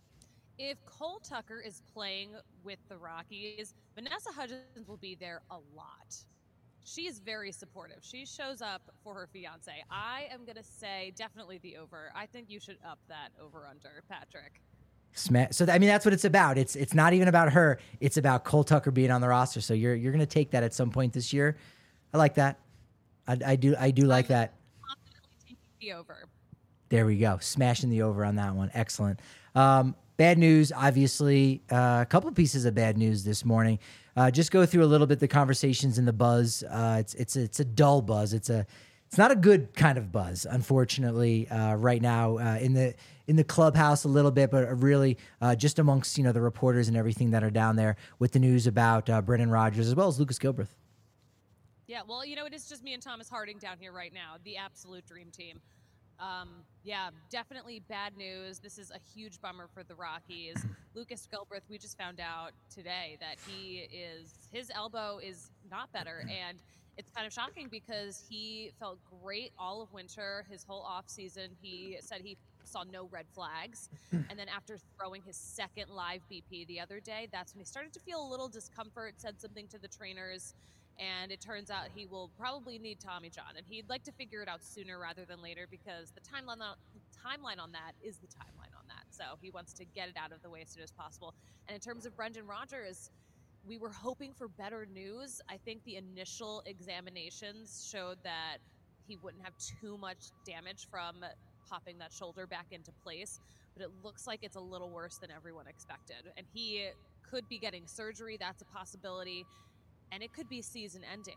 S7: If Cole Tucker is playing with the Rockies, Vanessa Hudgens will be there a lot. She is very supportive. She shows up for her fiance. I am going to say definitely the over. I think you should up that over-under, Patrick.
S1: So I mean, that's what it's about. It's it's not even about her. It's about Cole Tucker being on the roster. So you're you're going to take that at some point this year. I like that. I, I do I do like that.
S7: Confidently taking the over.
S1: There we go. Smashing the over on that one. Excellent. Um, bad news, obviously. Uh, a couple pieces of bad news this morning. Uh, just go through a little bit the conversations in the buzz. Uh, it's it's a, it's a dull buzz. It's a it's not a good kind of buzz, unfortunately, uh, right now uh, in the in the clubhouse a little bit, but really uh, just amongst you know the reporters and everything that are down there with the news about uh, Brendan Rodgers as well as Lucas Gilbreth.
S7: Yeah, well, you know, it is just me and Thomas Harding down here right now, the absolute dream team. Um, yeah, definitely bad news. This is a huge bummer for the Rockies. Lucas Gilbreth, we just found out today that he is, his elbow is not better. And it's kind of shocking because he felt great all of winter, his whole off season. He said he saw no red flags. And then after throwing his second live B P the other day, that's when he started to feel a little discomfort, said something to the trainers. And it turns out he will probably need Tommy John, and he'd like to figure it out sooner rather than later because the timeline on, the timeline on that is the timeline on that. So he wants to get it out of the way as soon as possible. And in terms of Brendan Rodgers, we were hoping for better news. I think the initial examinations showed that he wouldn't have too much damage from popping that shoulder back into place, but it looks like it's a little worse than everyone expected. And he could be getting surgery. That's a possibility. And it could be season ending.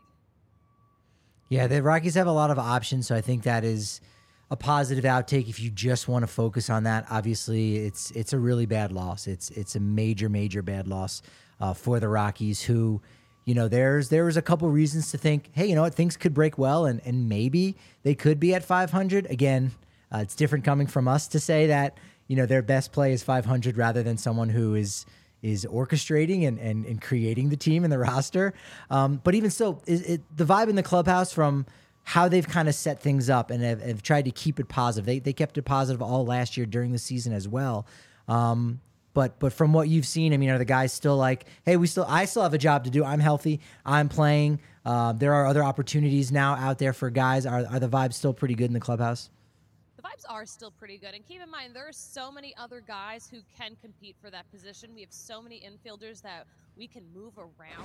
S1: Yeah, the Rockies have a lot of options, so I think that is a positive outtake if you just want to focus on that. Obviously, it's it's a really bad loss. It's it's a major, major bad loss uh, for the Rockies who, you know, there's there was a couple reasons to think, hey, you know what, things could break well and, and maybe they could be at five hundred. Again, uh, it's different coming from us to say that, you know, their best play is five hundred rather than someone who is is orchestrating and, and, and creating the team and the roster. Um, but even so, it, it, the vibe in the clubhouse from how they've kind of set things up and have, have tried to keep it positive. They they kept it positive all last year during the season as well. Um, but but from what you've seen, I mean, are the guys still like, hey, we still I still have a job to do. I'm healthy. I'm playing. Uh, there are other opportunities now out there for guys. Are are the vibes still pretty good in the clubhouse?
S7: The vibes are still pretty good. And keep in mind, there are so many other guys who can compete for that position. We have so many infielders that we can move around.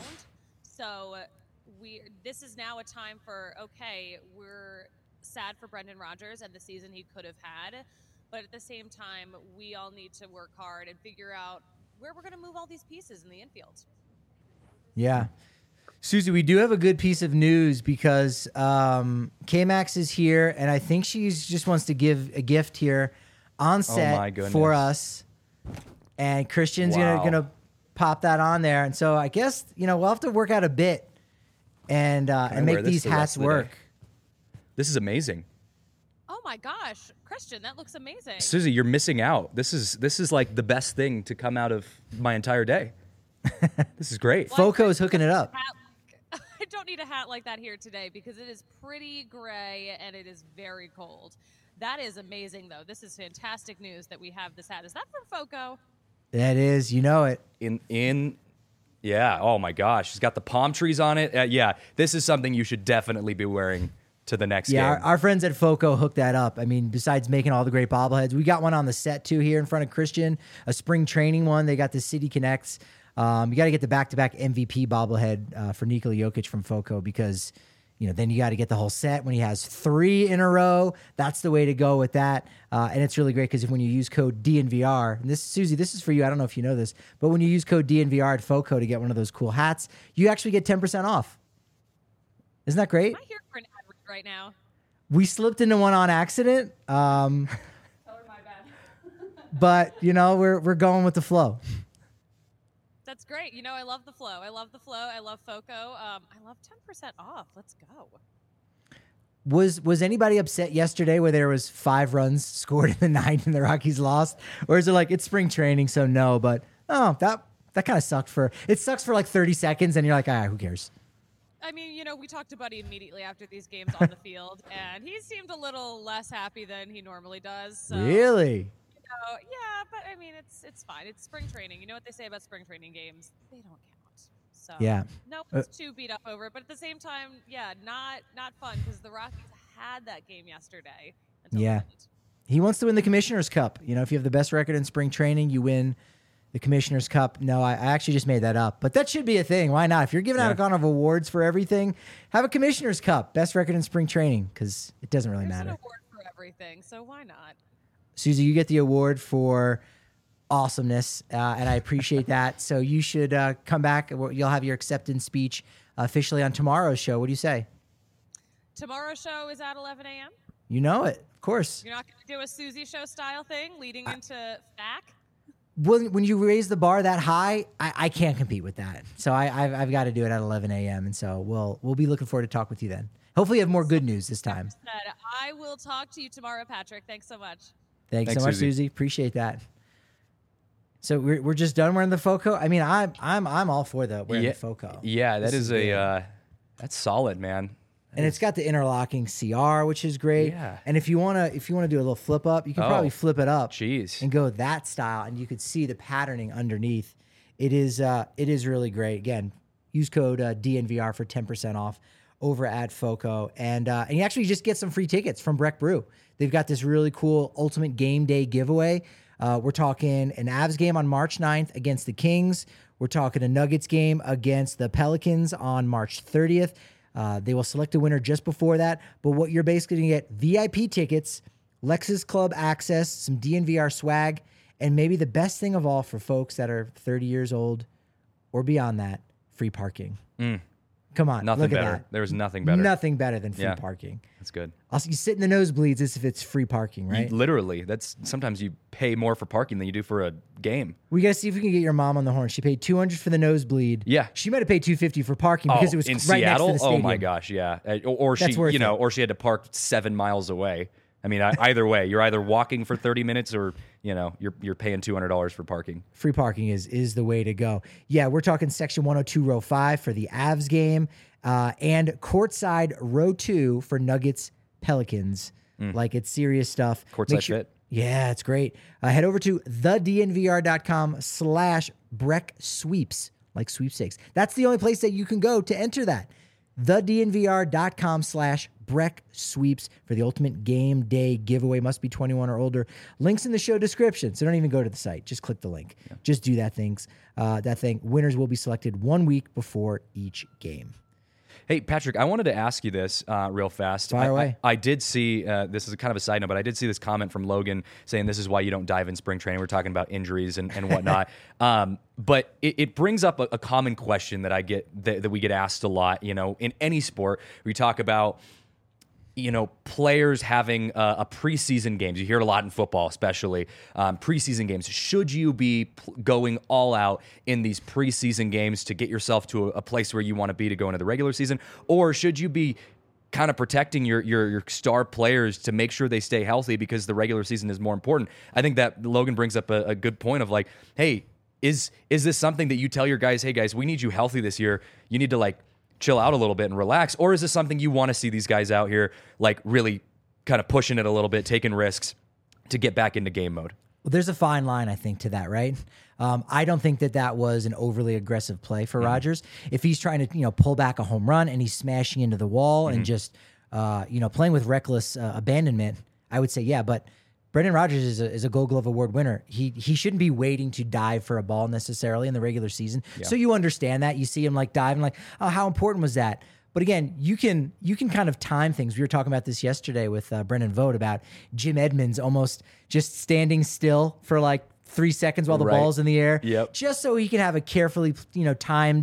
S7: So we this is now a time for, okay, we're sad for Brendan Rodgers and the season he could have had. But at the same time, we all need to work hard and figure out where we're going to move all these pieces in the infield.
S1: Yeah. Susie, we do have a good piece of news because um, K-Max is here, and I think she just wants to give a gift here on set
S2: oh
S1: for us. And Christian's
S2: wow.
S1: gonna gonna pop that on there, and so I guess you know we'll have to work out a bit and uh, and make these
S2: the
S1: hats work.
S2: This is amazing.
S7: Oh my gosh, Christian, that looks amazing.
S2: Susie, you're missing out. This is this is like the best thing to come out of my entire day. This is great.
S7: Well,
S1: Foco's hooking it up.
S7: I don't need a hat like that here today because it is pretty gray and it is very cold. That is amazing, though. This is fantastic news that we have this hat. Is that from Foco?
S1: That is, you know it.
S2: In in, yeah. Oh my gosh, she's got the palm trees on it. Uh, yeah, this is something you should definitely be wearing to the next
S1: yeah,
S2: game.
S1: Our, our friends at Foco hooked that up. I mean, besides making all the great bobbleheads, we got one on the set too here in front of Christian, a spring training one. They got the City Connects. Um, you got to get the back-to-back M V P bobblehead uh, for Nikola Jokic from Foco because, you know, then you got to get the whole set when he has three in a row. That's the way to go with that. Uh, and it's really great because when you use code D N V R, and this, Susie, this is for you. I don't know if you know this, but when you use code D N V R at Foco to get one of those cool hats, you actually get ten percent off. Isn't that great?
S7: Am I here for an ad read right now?
S1: We slipped into one on accident. Um,
S6: Tell her my bad.
S1: but you know, we're we're going with the flow.
S7: That's great. You know, I love the flow. I love the flow. I love FOCO. Um, I love ten percent off. Let's go.
S1: Was was anybody upset yesterday where there was five runs scored in the ninth and the Rockies lost? Or is it like it's spring training, so no, but oh, that that kind of sucked for it sucks for like thirty seconds and you're like, ah, who cares?
S7: I mean, you know, we talked to Buddy immediately after these games on the field, and he seemed a little less happy than he normally does. So,
S1: Really?
S7: You know, yeah, but I mean, it's it's fine. It's spring training. You know what they say about spring training games? They don't count. So
S1: Yeah.
S7: no
S1: Uh,
S7: one's too beat up over it, but at the same time, yeah, not not fun because the Rockies had that game yesterday. until
S1: Yeah.
S7: the end.
S1: He wants to win the Commissioner's Cup. You know, if you have the best record in spring training, you win the Commissioner's Cup. No, I, I actually just made that up. But that should be a thing. Why not? If you're giving out a
S2: Yeah.
S1: kind of awards for everything, have a Commissioner's Cup. Best record in spring training, because it doesn't really
S7: There's an
S1: matter.
S7: award for everything, so why not?
S1: Susie, you get the award for awesomeness, uh, and I appreciate that. So you should uh, come back. You'll have your acceptance speech officially on tomorrow's show. What do you say?
S7: Tomorrow's show is at eleven a.m.
S1: You know it, of course.
S7: You're not going to do a Susie show style thing leading into F A C?
S1: When, when you raise the bar that high, I, I can't compete with that. So I, I've, I've got to do it at eleven a.m. And so we'll we'll be looking forward to talk with you then. Hopefully you have more good news this time.
S7: Said, I will talk to you tomorrow, Patrick. Thanks so much.
S1: Thanks,
S2: Thanks,
S1: so much,
S2: Susie.
S1: Susie. Appreciate that. So we're, we're just done wearing the FOCO. I mean, I'm I'm I'm all for the wearing
S2: yeah,
S1: the FOCO.
S2: Yeah, that
S1: This
S2: is,
S1: is
S2: a
S1: good.
S2: uh, that's solid, man.
S1: And it's got the interlocking C R, which is great.
S2: Yeah.
S1: And if you wanna if you wanna do a little flip up, you can
S2: Oh,
S1: probably flip it up
S2: Jeez.
S1: and go that style, and you could see the patterning underneath. It is uh, it is really great. Again, use code uh, D N V R for ten percent off over at FOCO, and uh, and you actually just get some free tickets from Breck Brew. They've got this really cool Ultimate Game Day giveaway. Uh, we're talking an Avs game on March ninth against the Kings. We're talking a Nuggets game against the Pelicans on March thirtieth. Uh, they will select a winner just before that. But what you're basically going to get, V I P tickets, Lexus Club access, some D N V R swag, and maybe the best thing of all for folks that are thirty years old or beyond that, free parking.
S2: Mm.
S1: Come on,
S2: Nothing
S1: look
S2: better.
S1: at that.
S2: There's nothing better.
S1: Nothing better than free
S2: Yeah.
S1: parking.
S2: That's good.
S1: Also, you sit in the nosebleeds as if it's free parking, right?
S2: Literally, that's sometimes you pay more for parking than you do for a game.
S1: We got to see if we can get your mom on the horn. She paid two hundred for the nosebleed.
S2: Yeah.
S1: She might have paid two hundred fifty for parking because
S2: oh,
S1: it was
S2: in
S1: right
S2: Seattle.
S1: next to the
S2: Oh
S1: stadium.
S2: my gosh, yeah. Uh, Or, or she,
S1: That's worth
S2: you know,
S1: it.
S2: or she had to park seven miles away. I mean, I, either way, you're either walking for thirty minutes or you know you're you're paying two hundred dollars for parking.
S1: Free parking is is the way to go. Yeah, we're talking section one oh two, row five for the Avs game, uh, and courtside row two for Nuggets Pelicans. Like, it's serious stuff.
S2: Mm. Courtside
S1: Make sure-
S2: fit.
S1: Yeah, it's great. Uh, head over to thednvr.com slash Breck Sweeps, like sweepstakes. That's the only place that you can go to enter that. thednvr.com slash Breck Sweeps for the ultimate game day giveaway. Must be twenty-one or older. Links in the show description. So don't even go to the site. Just click the link. Just do that things. Uh, that thing. Winners will be selected one week before each game.
S2: Hey, Patrick, I wanted to ask you this uh, real fast.
S1: Fire
S2: I,
S1: away.
S2: I, I did see, uh, this is a kind of a side note, but I did see this comment from Logan saying this is why you don't dive in spring training. We're talking about injuries and, and whatnot. um, but it, it brings up a, a common question that I get, that, that we get asked a lot, you know, in any sport. We talk about, you know, players having uh, a preseason games. You hear it a lot in football, especially um, preseason games. Should you be pl- going all out in these preseason games to get yourself to a, a place where you want to be to go into the regular season, or should you be kind of protecting your, your your star players to make sure they stay healthy because the regular season is more important? I think that Logan brings up a, a good point of like, hey, is is this something that you tell your guys? Hey guys, we need you healthy this year. You need to like chill out a little bit and relax? Or is this something you want to see these guys out here like really kind of pushing it a little bit, taking risks to get back into game mode?
S1: Well, there's a fine line, I think, to that, right? Um, I don't think that that was an overly aggressive play for
S2: Mm-hmm.
S1: Rodgers. If he's trying to, you know, pull back a home run and he's smashing into the wall
S2: Mm-hmm.
S1: and just, uh, you know, playing with reckless uh, abandonment, I would say, yeah. But Brendan Rodgers is a, is a Gold Glove Award winner. He he shouldn't be waiting to dive for a ball necessarily in the regular season. So you understand that. You see him like diving, like, oh, how important was that? But again, you can you can kind of time things. We were talking about this yesterday with uh, Brendan Vogt about Jim Edmonds almost just standing still for like three seconds while the
S2: Right.
S1: ball's in the air,
S2: Yep.
S1: just so he can have a carefully, you know, timed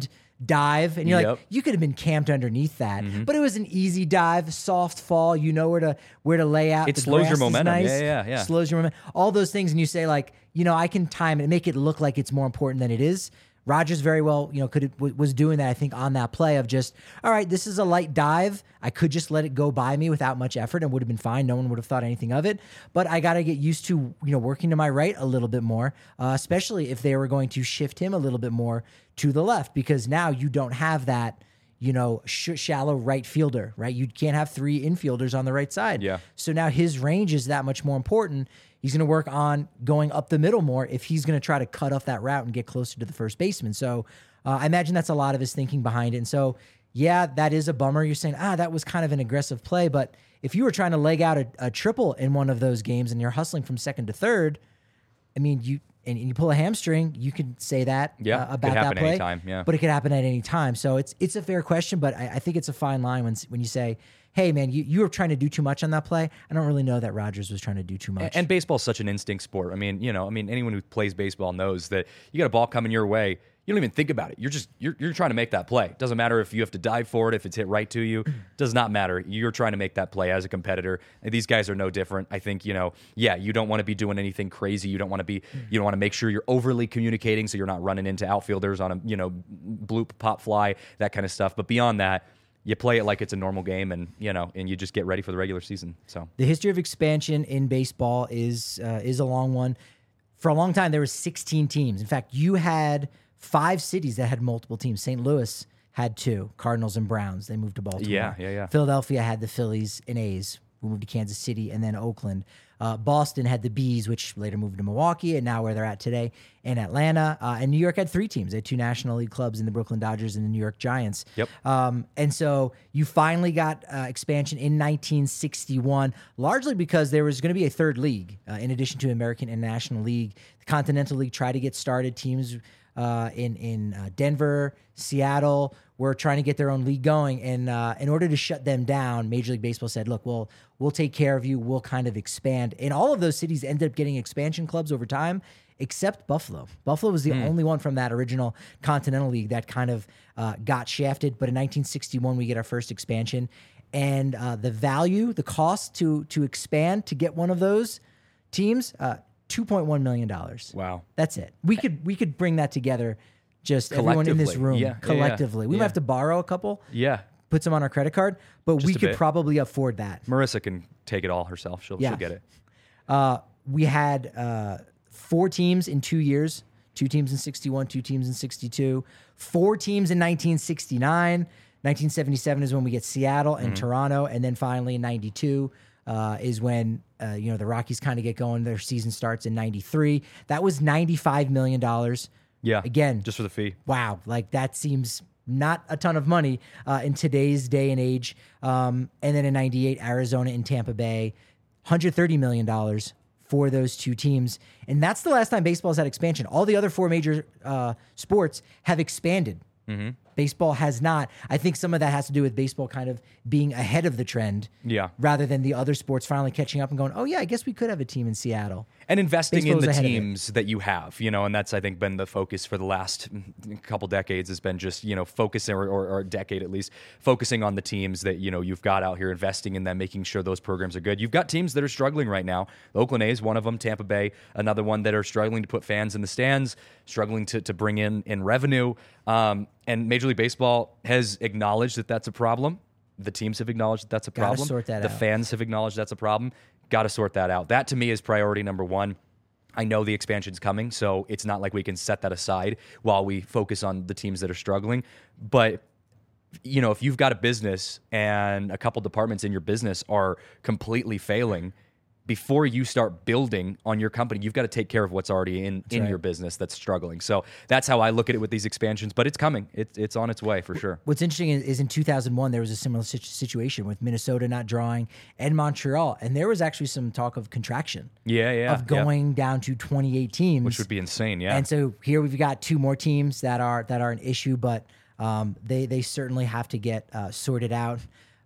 S1: dive, and you're
S2: Yep.
S1: like, you could have been camped underneath that, but it was an easy dive, soft fall. You know where to where to lay out.
S2: It
S1: The
S2: slows your
S1: grass is
S2: momentum.
S1: nice,
S2: Yeah, yeah, yeah.
S1: Slows your momentum. All those things, and you say like, you know, I can time it, make it look like it's more important than it is. Rodgers very well, you know, could was doing that. I think on that play of just, all right, this is a light dive. I could just let it go by me without much effort and would have been fine. No one would have thought anything of it. But I got to get used to, you know, working to my right a little bit more, uh, especially if they were going to shift him a little bit more to the left, because now you don't have that, you know, sh- shallow right fielder, right? You can't have three infielders on the right side.
S2: Yeah.
S1: So now his range is that much more important. He's going to work on going up the middle more if he's going to try to cut off that route and get closer to the first baseman. So uh, I imagine that's a lot of his thinking behind it. And so, yeah, that is a bummer. You're saying, ah, that was kind of an aggressive play. But if you were trying to leg out a, a triple in one of those games and you're hustling from second to third, I mean, you and, and you pull a hamstring, you can say that
S2: Yeah,
S1: uh,
S2: could
S1: about
S2: happen
S1: that play.
S2: anytime, yeah.
S1: But it could happen at any time. So it's it's a fair question, but I, I think it's a fine line when when you say, hey, man, you, you were trying to do too much on that play. I don't really know that Rodgers was trying to do too much.
S2: And, and baseball's such an instinct sport. I mean, you know, I mean, anyone who plays baseball knows that you got a ball coming your way. You don't even think about it. You're just you're you're trying to make that play. Doesn't matter if you have to dive for it, if it's hit right to you. Does not matter. You're trying to make that play as a competitor. And these guys are no different. I think, you know, yeah, you don't want to be doing anything crazy. You don't want to be you don't want to make sure you're overly communicating so you're not running into outfielders on a, you know, bloop, pop fly, that kind of stuff. But beyond that, you play it like it's a normal game, and you know, and you just get ready for the regular season. So
S1: the history of expansion in baseball is uh, is a long one. For a long time, there were sixteen teams. In fact, you had five cities that had multiple teams. Saint Louis had two, Cardinals and Browns. They moved to Baltimore.
S2: Yeah, yeah, yeah.
S1: Philadelphia had the Phillies and A's. We moved to Kansas City and then Oakland. Uh, Boston had the Bees, which later moved to Milwaukee, and now where they're at today in Atlanta. Uh, and New York had three teams. They had two National League clubs in the Brooklyn Dodgers and the New York Giants.
S2: Yep.
S1: Um, and so you finally got uh, expansion in nineteen sixty-one, largely because there was going to be a third league uh, in addition to American and National League. The Continental League tried to get started. Teams uh, in in uh, Denver, Seattle were trying to get their own league going, and uh, in order to shut them down, Major League Baseball said, "Look, we'll we'll take care of you. We'll kind of expand." And all of those cities ended up getting expansion clubs over time, except Buffalo. Buffalo was the mm. only one from that original Continental League that kind of uh, got shafted. But in nineteen sixty-one, we get our first expansion, and uh, the value, the cost to to expand to get one of those teams, uh, two point one million dollars.
S2: Wow,
S1: that's it. We could we could bring that together. Just everyone in this room
S2: yeah,
S1: collectively.
S2: Yeah,
S1: we
S2: yeah.
S1: might have to borrow a couple.
S2: Yeah.
S1: Put some on our credit card, but
S2: Just
S1: we
S2: a
S1: could
S2: bit.
S1: probably afford that.
S2: Marissa can take it all herself. She'll,
S1: Yeah.
S2: she'll get it.
S1: Uh, we had uh, four teams in two years, two teams in sixty-one, two teams in sixty-two, four teams in nineteen sixty-nine. nineteen seventy-seven is when we get Seattle and
S2: Mm-hmm.
S1: Toronto. And then finally in ninety-two uh, is when, uh, you know, the Rockies kind of get going. Their season starts in ninety-three. That was ninety-five million dollars.
S2: Yeah.
S1: Again,
S2: just for the fee.
S1: Wow. Like that seems not a ton of money uh, in today's day and age. Um, and then in ninety-eight, Arizona and Tampa Bay, one hundred thirty million dollars for those two teams. And that's the last time baseball's had expansion. All the other four major uh, sports have expanded.
S2: Mm-hmm.
S1: Baseball has not. I think some of that has to do with baseball kind of being ahead of the trend.
S2: Yeah.
S1: Rather than the other sports finally catching up and going, oh, yeah, I guess we could have a team in Seattle.
S2: And investing
S1: Baseball
S2: in
S1: was
S2: the
S1: ahead of it.
S2: teams that you have, you know, and that's, I think, been the focus for the last couple decades has been just, you know, focusing, or, or, or a decade at least, focusing on the teams that, you know, you've got out here, investing in them, making sure those programs are good. You've got teams that are struggling right now. The Oakland A's, one of them, Tampa Bay, another one that are struggling to put fans in the stands, struggling to, to bring in, in revenue. Um, and Major League Baseball has acknowledged that that's a problem. The teams have acknowledged that that's a
S1: Gotta
S2: problem.
S1: sort that
S2: the
S1: out.
S2: fans have acknowledged that's a problem. Got to sort that out. That to me is priority number one. I know the expansion's coming, so it's not like we can set that aside while we focus on the teams that are struggling. But, you know, if you've got a business and a couple departments in your business are completely failing, before you start building on your company, you've got to take care of what's already in, in
S1: right.
S2: your business that's struggling. So that's how I look at it with these expansions, but it's coming. It's it's on its way for sure.
S1: What's interesting is, is in two thousand one, there was a similar situ- situation with Minnesota not drawing and Montreal. And there was actually some talk of contraction.
S2: Yeah, yeah.
S1: Of going down to twenty-eight teams.
S2: Which would be insane, yeah.
S1: And so here we've got two more teams that are that are an issue, but um, they, they certainly have to get uh, sorted out.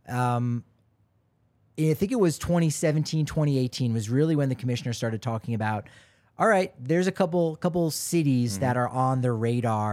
S1: Um, I think it was twenty seventeen, twenty eighteen was really when the commissioner started talking about, all right, there's a couple couple cities
S2: Mm-hmm.
S1: that are on the radar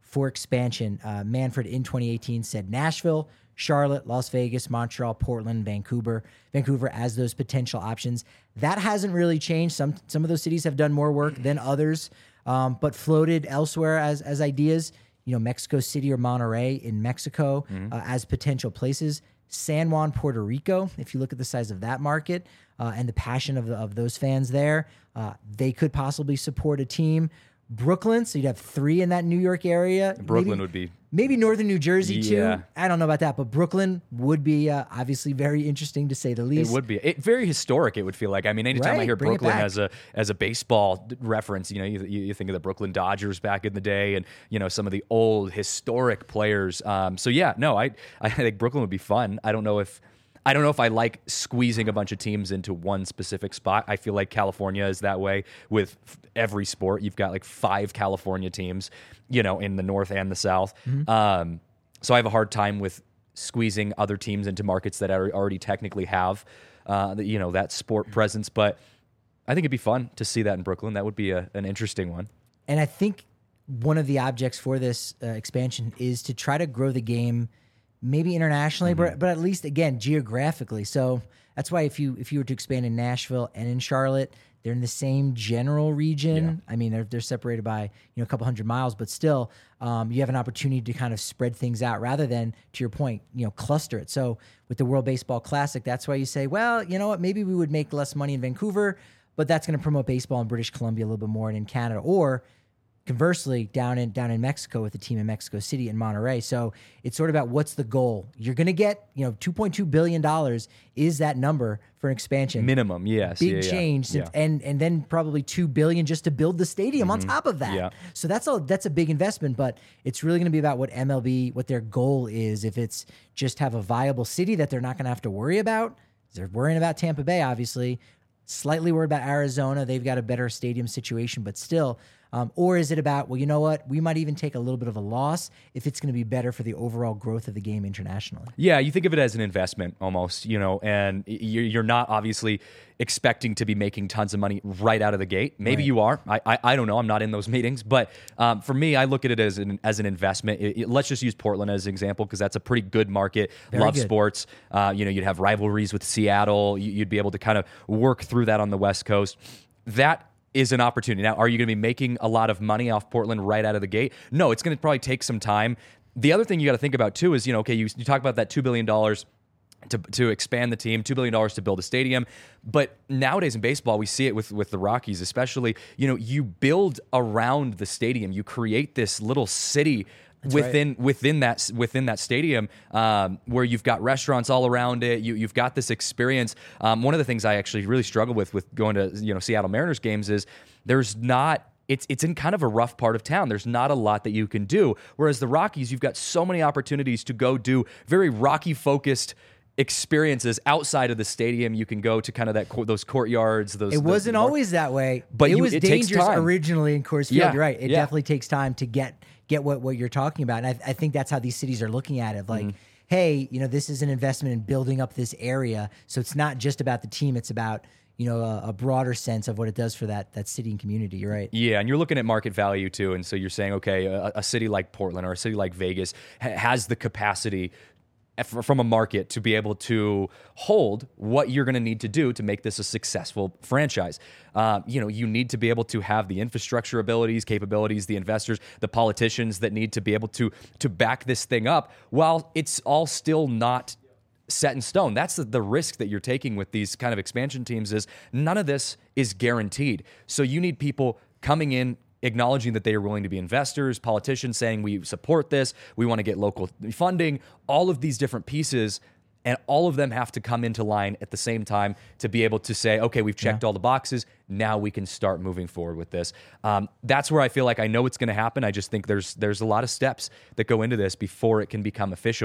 S1: for expansion. Uh, Manfred in twenty eighteen said Nashville, Charlotte, Las Vegas, Montreal, Portland, Vancouver, Vancouver as those potential options. That hasn't really changed. Some some of those cities have done more work than others, um, but floated elsewhere as as ideas. You know, Mexico City or Monterrey in Mexico mm-hmm. uh, as potential places. San Juan, Puerto Rico, if you look at the size of that market uh, and the passion of, the, of those fans there, uh, they could possibly support a team. Brooklyn, so you'd have three in that New York area.
S2: Brooklyn
S1: maybe,
S2: would be...
S1: Maybe northern New Jersey,
S2: yeah.
S1: too. I don't know about that, but Brooklyn would be uh, obviously very interesting, to say the least.
S2: It would be. It, very historic, it would feel like. I mean, anytime
S1: right,
S2: I hear
S1: bring
S2: Brooklyn as a as a baseball reference, you know, you, you think of the Brooklyn Dodgers back in the day and, you know, some of the old historic players. Um, so, yeah, no, I I think Brooklyn would be fun. I don't know if... I don't know if I like squeezing a bunch of teams into one specific spot. I feel like California is that way with every sport. You've got like five California teams, you know, in the North and the South. Mm-hmm. Um, so I have a hard time with squeezing other teams into markets that are already technically have, uh, the, you know, that sport presence. But I think it'd be fun to see that in Brooklyn. That would be a, an interesting one.
S1: And I think one of the objects for this uh, expansion is to try to grow the game maybe internationally, mm-hmm. but but at least again geographically. So that's why if you if you were to expand in Nashville and in Charlotte, they're in the same general region. Yeah. I mean, they're they're separated by you know a couple hundred miles, but still, um, you have an opportunity to kind of spread things out rather than, to your point, you know, cluster it. So with the World Baseball Classic, that's why you say, well, you know what, maybe we would make less money in Vancouver, but that's going to promote baseball in British Columbia a little bit more and in Canada, or conversely, down in down in Mexico with a team in Mexico City and Monterrey. So it's sort of about what's the goal. You're going to get, you know, two point two billion dollars is that number for an expansion.
S2: Minimum, yes.
S1: Big
S2: yeah,
S1: change.
S2: Yeah.
S1: Since, and and then probably two billion dollars just to build the stadium mm-hmm. on top of that.
S2: Yeah.
S1: So that's a, that's a big investment, but it's really going to be about what M L B, what their goal is. If it's just have a viable city that they're not going to have to worry about. They're worrying about Tampa Bay, obviously. Slightly worried about Arizona. They've got a better stadium situation, but still. Um, or is it about, well, you know what? We might even take a little bit of a loss if it's going to be better for the overall growth of the game internationally.
S2: Yeah, you think of it as an investment almost, you know, and you're not obviously expecting to be making tons of money right out of the gate. Maybe right. you are. I, I I don't know. I'm not in those meetings. But um, for me, I look at it as an, as an investment. It, it, let's just use Portland as an example because that's a pretty good market.
S1: Very
S2: Love
S1: good.
S2: sports. Uh, you know, you'd have rivalries with Seattle. You'd be able to kind of work through that on the West Coast. That is an opportunity. Now, are you going to be making a lot of money off Portland right out of the gate? No, it's going to probably take some time. The other thing you got to think about too is, you know, okay, you, you talk about that two billion dollars to to expand the team, two billion dollars to build a stadium. But nowadays in baseball, we see it with, with the Rockies especially, you know, you build around the stadium. You create this little city That's within right. within that within that stadium, um, where you've got restaurants all around it. You you've got this experience. Um, one of the things I actually really struggle with with going to you know Seattle Mariners games is there's not. It's it's in kind of a rough part of town. There's not a lot that you can do. Whereas the Rockies, you've got so many opportunities to go do very Rocky focused experiences outside of the stadium. You can go to kind of that those courtyards. Those
S1: it wasn't
S2: the,
S1: always that way,
S2: but
S1: it
S2: you,
S1: was
S2: it
S1: dangerous
S2: takes time.
S1: originally in Coors Field.
S2: Yeah,
S1: You're right. It
S2: yeah.
S1: definitely takes time to get get what, what you're talking about. And I, I think that's how these cities are looking at it. Like, mm-hmm. hey, you know, this is an investment in building up this area. So it's not just about the team. It's about, you know, a, a broader sense of what it does for that that city and community. You're right.
S2: Yeah, and you're looking at market value too. And so you're saying, okay, a, a city like Portland or a city like Vegas ha- has the capacity from a market to be able to hold what you're going to need to do to make this a successful franchise. Uh, you know, you need to be able to have the infrastructure abilities, capabilities, the investors, the politicians that need to be able to to back this thing up while it's all still not set in stone. That's the, the risk that you're taking with these kind of expansion teams is none of this is guaranteed. So you need people coming in, acknowledging that they are willing to be investors, politicians saying we support this, we want to get local funding, all of these different pieces, and all of them have to come into line at the same time to be able to say, okay, we've checked yeah. all the boxes, now we can start moving forward with this. Um, that's where I feel like I know it's going to happen. I just think there's there's a lot of steps that go into this before it can become official.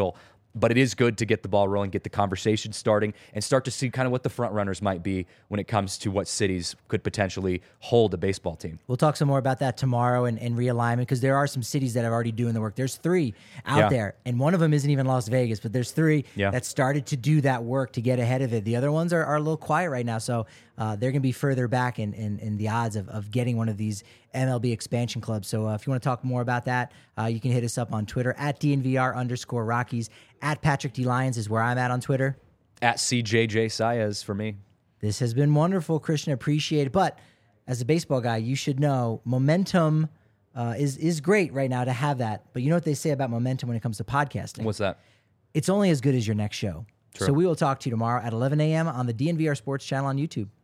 S2: but it is good to get the ball rolling, get the conversation starting, and start to see kind of what the front runners might be when it comes to what cities could potentially hold a baseball team.
S1: We'll talk some more about that tomorrow and, and realignment, because there are some cities that are already doing the work. There's three out
S2: Yeah.
S1: there, and one of them isn't even Las Vegas, but there's three
S2: Yeah.
S1: that started to do that work to get ahead of it. The other ones are, are a little quiet right now, so uh, they're going to be further back in, in, in the odds of, of getting one of these M L B expansion clubs. So uh, if you want to talk more about that, uh, you can hit us up on Twitter at D N V R underscore Rockies. At Patrick D. Lyons is where I'm at on Twitter.
S2: At C J J Saez for me.
S1: This has been wonderful, Christian. Appreciate it. But as a baseball guy, you should know momentum uh, is is great right now to have that. But you know what they say about momentum when it comes to podcasting?
S2: What's that?
S1: It's only as good as your next show.
S2: True.
S1: So we will talk to you tomorrow at eleven a.m. on the D N V R Sports channel on YouTube.